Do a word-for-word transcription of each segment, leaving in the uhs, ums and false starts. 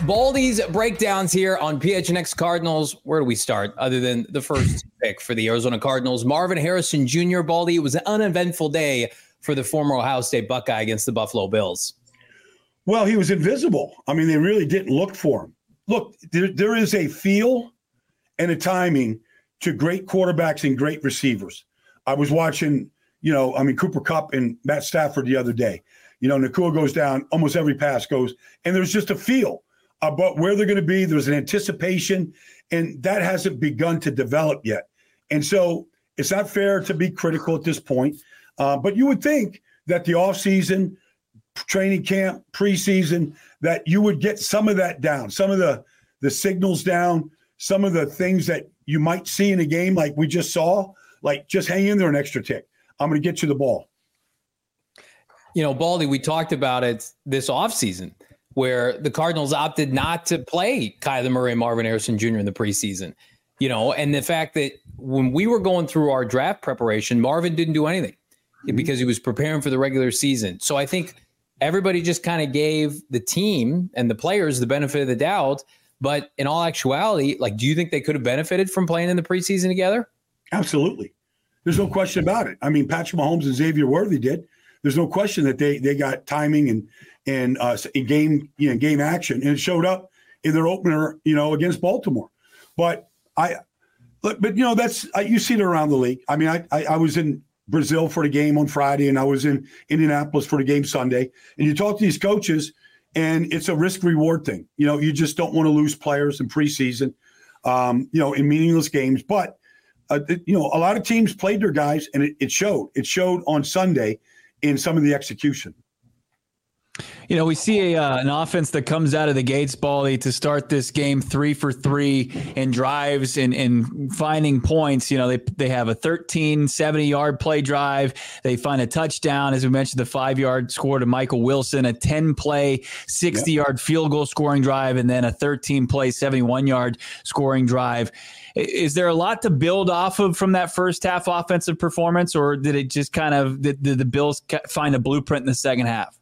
Baldy's breakdowns here on P H N X Cardinals. Where do we start other than the first pick for the Arizona Cardinals? Marvin Harrison Junior Baldy, it was an uneventful day for the former Ohio State Buckeye against the Buffalo Bills. Well, he was invisible. I mean, they really didn't look for him. Look, there, there is a feel and a timing to great quarterbacks and great receivers. I was watching, you know, I mean, Cooper Kupp and Matt Stafford the other day. You know, Nakua goes down, almost every pass goes, and there's just a feel about where they're going to be. There's an anticipation, and that hasn't begun to develop yet. And so it's not fair to be critical at this point. Uh, but you would think that the offseason, training camp, preseason, that you would get some of that down, some of the, the signals down, some of the things that you might see in a game like we just saw, like just hang in there an extra tick. I'm going to get you the ball. You know, Baldy, we talked about it this offseason where the Cardinals opted not to play Kyler Murray and Marvin Harrison Junior in the preseason. You know, and the fact that when we were going through our draft preparation, Marvin didn't do anything mm-hmm. because he was preparing for the regular season. So I think everybody just kind of gave the team and the players the benefit of the doubt. But in all actuality, like, do you think they could have benefited from playing in the preseason together? Absolutely. There's no question about it. I mean, Patrick Mahomes and Xavier Worthy did. There's no question that they they got timing and and uh, in game you know game action, and it showed up in their opener, you know, against Baltimore. But I, but, but you know that's uh, you see it around the league. I mean, I, I I was in Brazil for the game on Friday, and I was in Indianapolis for the game Sunday. And you talk to these coaches, and it's a risk reward thing. You know, you just don't want to lose players in preseason, um, you know, in meaningless games. But uh, you know, a lot of teams played their guys, and it, it showed. It showed on Sunday in some of the execution. You know, we see a, uh, an offense that comes out of the gates, Baldy, to start this game three for three and drives and, and finding points. You know, they they have a thirteen seventy-yard play drive. They find a touchdown, as we mentioned, the five-yard score to Michael Wilson, a ten-play sixty-yard yep. field goal scoring drive, and then a thirteen-play seventy-one-yard scoring drive. Is there a lot to build off of from that first half offensive performance, or did it just kind of did, did the Bills find a blueprint in the second half?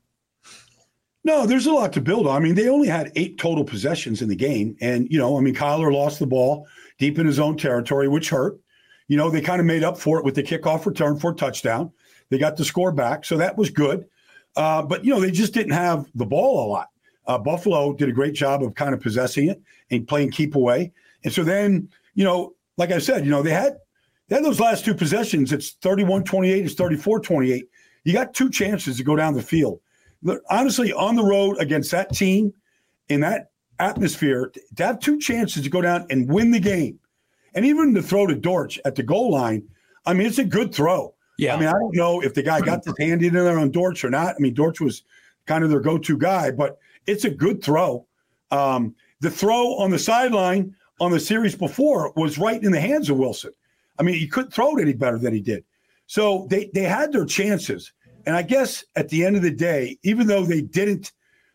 No, there's a lot to build on. I mean, they only had eight total possessions in the game. And, you know, I mean, Kyler lost the ball deep in his own territory, which hurt. You know, they kind of made up for it with the kickoff return for a touchdown. They got the score back, so that was good. Uh, but, you know, they just didn't have the ball a lot. Uh, Buffalo did a great job of kind of possessing it and playing keep away. And so then, you know, like I said, you know, they had they had those last two possessions. It's thirty-one twenty-eight, it's thirty-four twenty-eight. You got two chances to go down the field. Honestly, on the road against that team in that atmosphere, to have two chances to go down and win the game, and even to throw to Dortch at the goal line, I mean, it's a good throw. Yeah. I mean, I don't know if the guy got his hand in there on Dortch or not. I mean, Dortch was kind of their go-to guy, but it's a good throw. Um, the throw on the sideline on the series before was right in the hands of Wilson. I mean, he couldn't throw it any better than he did. So they they had their chances. And I guess at the end of the day, even though they didn't,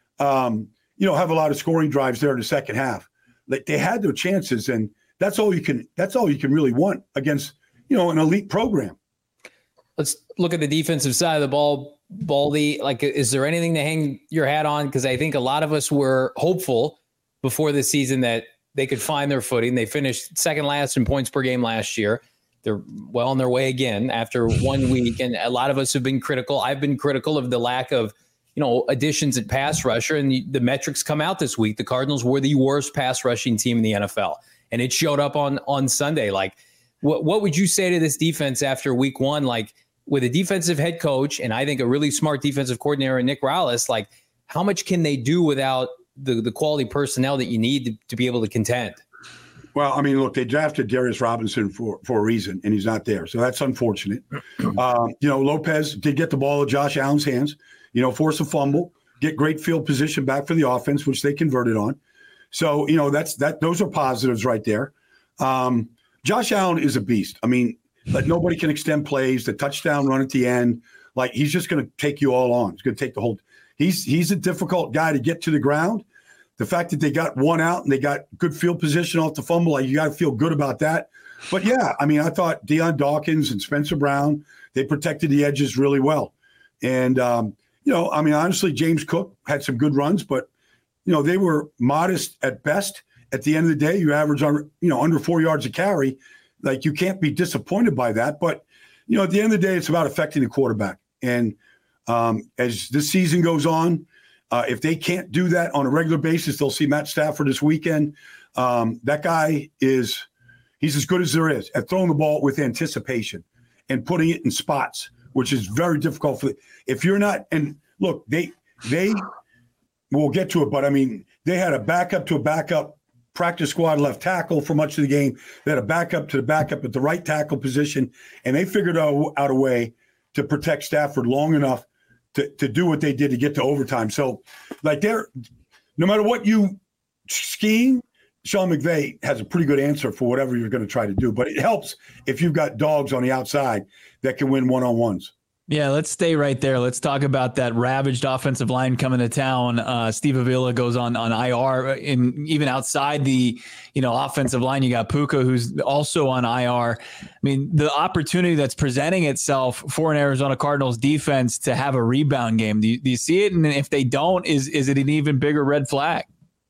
um, you know, have a lot of scoring drives there in the second half, like they had their chances, and that's all you can. That's all you can really want against, you know, an elite program. Let's look at the defensive side of the ball, Baldy. Like, is there anything to hang your hat on? Because I think a lot of us were hopeful before the season that they could find their footing. They finished second last in points per game last year. They're well on their way again after one week. And a lot of us have been critical. I've been critical of the lack of, you know, additions at pass rusher. And the, the metrics come out this week. The Cardinals were the worst pass rushing team in the N F L. And it showed up on, on Sunday. Like, what, what would you say to this defense after week one? Like, with a defensive head coach, and I think a really smart defensive coordinator, Nick Rallis, like, how much can they do without the, the quality personnel that you need to, to be able to contend? Well, I mean, look, they drafted Darius Robinson for, for a reason, and he's not there. So that's unfortunate. um, you know, Lopez did get the ball at Josh Allen's hands, you know, force a fumble, get great field position back for the offense, which they converted on. So, you know, that's that. Those are positives right there. Um, Josh Allen is a beast. I mean, but nobody can extend plays. The touchdown run at the end, like, he's just going to take you all on. He's going to take the whole – he's he's a difficult guy to get to the ground. The fact that they got one out and they got good field position off the fumble, like, you got to feel good about that. But, yeah, I mean, I thought Deion Dawkins and Spencer Brown, they protected the edges really well. And, um, you know, I mean, honestly, James Cook had some good runs, but you know, they were modest at best. At the end of the day, you average on, you know, under four yards a carry. Like, you can't be disappointed by that. But, you know, at the end of the day, it's about affecting the quarterback. And um, as this season goes on, uh, if they can't do that on a regular basis, they'll see Matt Stafford this weekend. Um, that guy is, he's as good as there is at throwing the ball with anticipation and putting it in spots, which is very difficult for, if you're not, and look, they, they, we'll get to it, but I mean, they had a backup to a backup practice squad left tackle for much of the game. They had a backup to the backup at the right tackle position, and they figured out, out a way to protect Stafford long enough to, to do what they did to get to overtime. So, like, they're, no matter what you scheme, Sean McVay has a pretty good answer for whatever you're going to try to do. But it helps if you've got dogs on the outside that can win one-on-ones. Yeah, let's stay right there. Let's talk about that ravaged offensive line coming to town. Uh, Steve Avila goes on on I R, and even outside the you know offensive line, you got Puka, who's also on I R. I mean, the opportunity that's presenting itself for an Arizona Cardinals defense to have a rebound game. Do you, do you see it? And if they don't, is is it an even bigger red flag?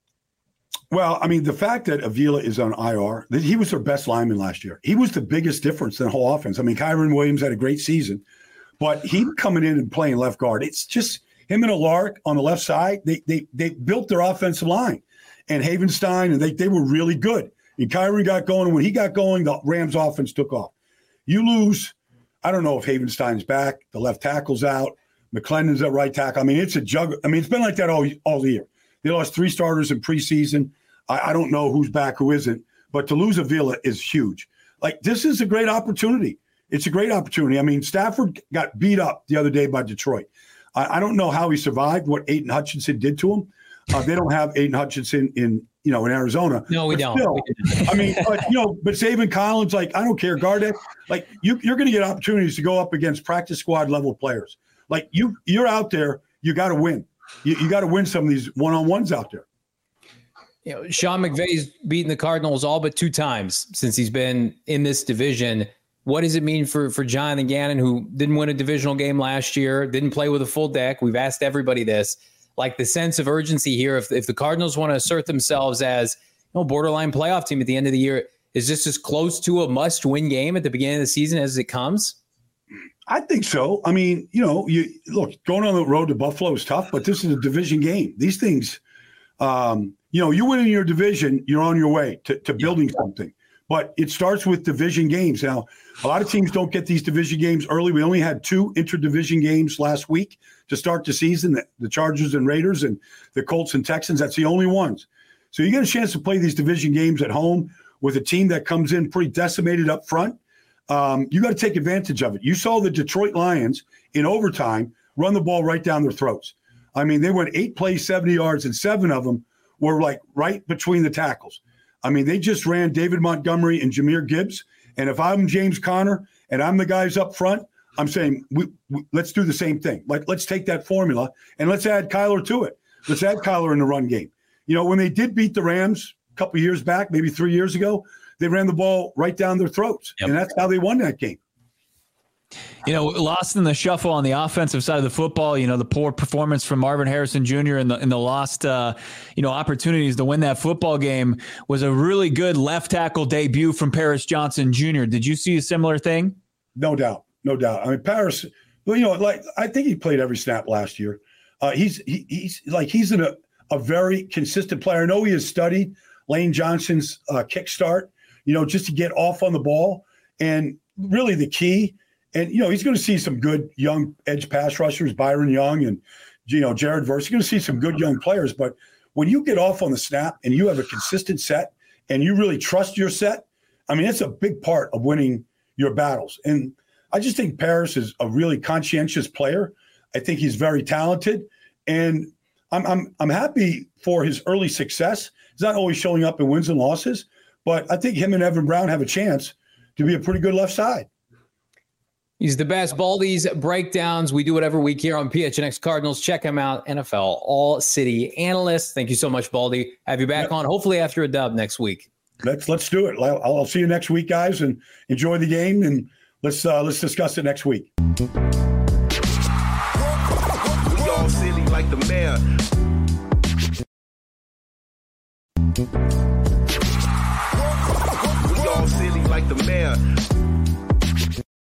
Well, I mean, the fact that Avila is on I R, that he was their best lineman last year. He was the biggest difference in the whole offense. I mean, Kyron Williams had a great season. But he coming in and playing left guard, it's just him and Alark on the left side. They they they built their offensive line, and Havenstein, and they they were really good. And Kyron got going, and when he got going, the Rams offense took off. You lose, I don't know if Havenstein's back, the left tackle's out, McClendon's at right tackle. I mean, it's a juggle. I mean, it's been like that all all year. They lost three starters in preseason. I, I don't know who's back, who isn't, but to lose Avila is huge. Like, this is a great opportunity. It's a great opportunity. I mean, Stafford got beat up the other day by Detroit. I, I don't know how he survived, what Aiden Hutchinson did to him. Uh, they don't have Aiden Hutchinson in, you know, in Arizona. No, we but don't. Still, I mean, but, you know, but Zaven Collins, like, I don't care, Gardeck, like, you, you're going to get opportunities to go up against practice squad level players. Like, you, you're out there, you got to win. You, you got to win some of these one-on-ones out there. You know, Sean McVay's beaten the Cardinals all but two times since he's been in this division. What does it mean for, for Jonathan Gannon, who didn't win a divisional game last year, didn't play with a full deck? We've asked everybody this. Like, the sense of urgency here, if if the Cardinals want to assert themselves as, you know, borderline playoff team at the end of the year, is this as close to a must-win game at the beginning of the season as it comes? I think so. I mean, you know, you look, going on the road to Buffalo is tough, but this is a division game. These things, um, you know, you win in your division, you're on your way to, to building something. But it starts with division games. Now, a lot of teams don't get these division games early. We only had two interdivision games last week to start the season, the, the Chargers and Raiders and the Colts and Texans. That's the only ones. So you get a chance to play these division games at home with a team that comes in pretty decimated up front. Um, you got to take advantage of it. You saw the Detroit Lions in overtime run the ball right down their throats. I mean, they went eight plays, seventy yards, and seven of them were like right between the tackles. I mean, they just ran David Montgomery and Jahmyr Gibbs. And if I'm James Conner and I'm the guys up front, I'm saying, we, we, let's do the same thing. Like, let's take that formula and let's add Kyler to it. Let's add Kyler in the run game. You know, when they did beat the Rams a couple of years back, maybe three years ago, they ran the ball right down their throats. Yep. And that's how they won that game. You know, lost in the shuffle on the offensive side of the football, you know, the poor performance from Marvin Harrison Junior and the, and the lost, uh, you know, opportunities to win that football game was a really good left tackle debut from Paris Johnson Junior Did you see a similar thing? No doubt. No doubt. I mean, Paris, well, you know, like, I think he played every snap last year. Uh, he's, he, he's like, he's in a, a very consistent player. I know he has studied Lane Johnson's uh, kickstart, you know, just to get off on the ball. And really the key, and, you know, he's going to see some good young edge pass rushers, Byron Young and, you know, Jared Verse. You're going to see some good young players. But when you get off on the snap and you have a consistent set and you really trust your set, I mean, it's a big part of winning your battles. And I just think Paris is a really conscientious player. I think he's very talented. And I'm I'm I'm happy for his early success. He's not always showing up in wins and losses, but I think him and Evan Brown have a chance to be a pretty good left side. He's the best. Baldy's breakdowns. We do it every week here on P H N X Cardinals. Check him out. N F L All-City Analyst. Thank you so much, Baldy. Have you back yep. on, hopefully after a dub next week. Let's let's do it. I'll, I'll see you next week, guys, and enjoy the game. And let's uh, let's discuss it next week. We all silly like the mayor. We all silly like the mayor.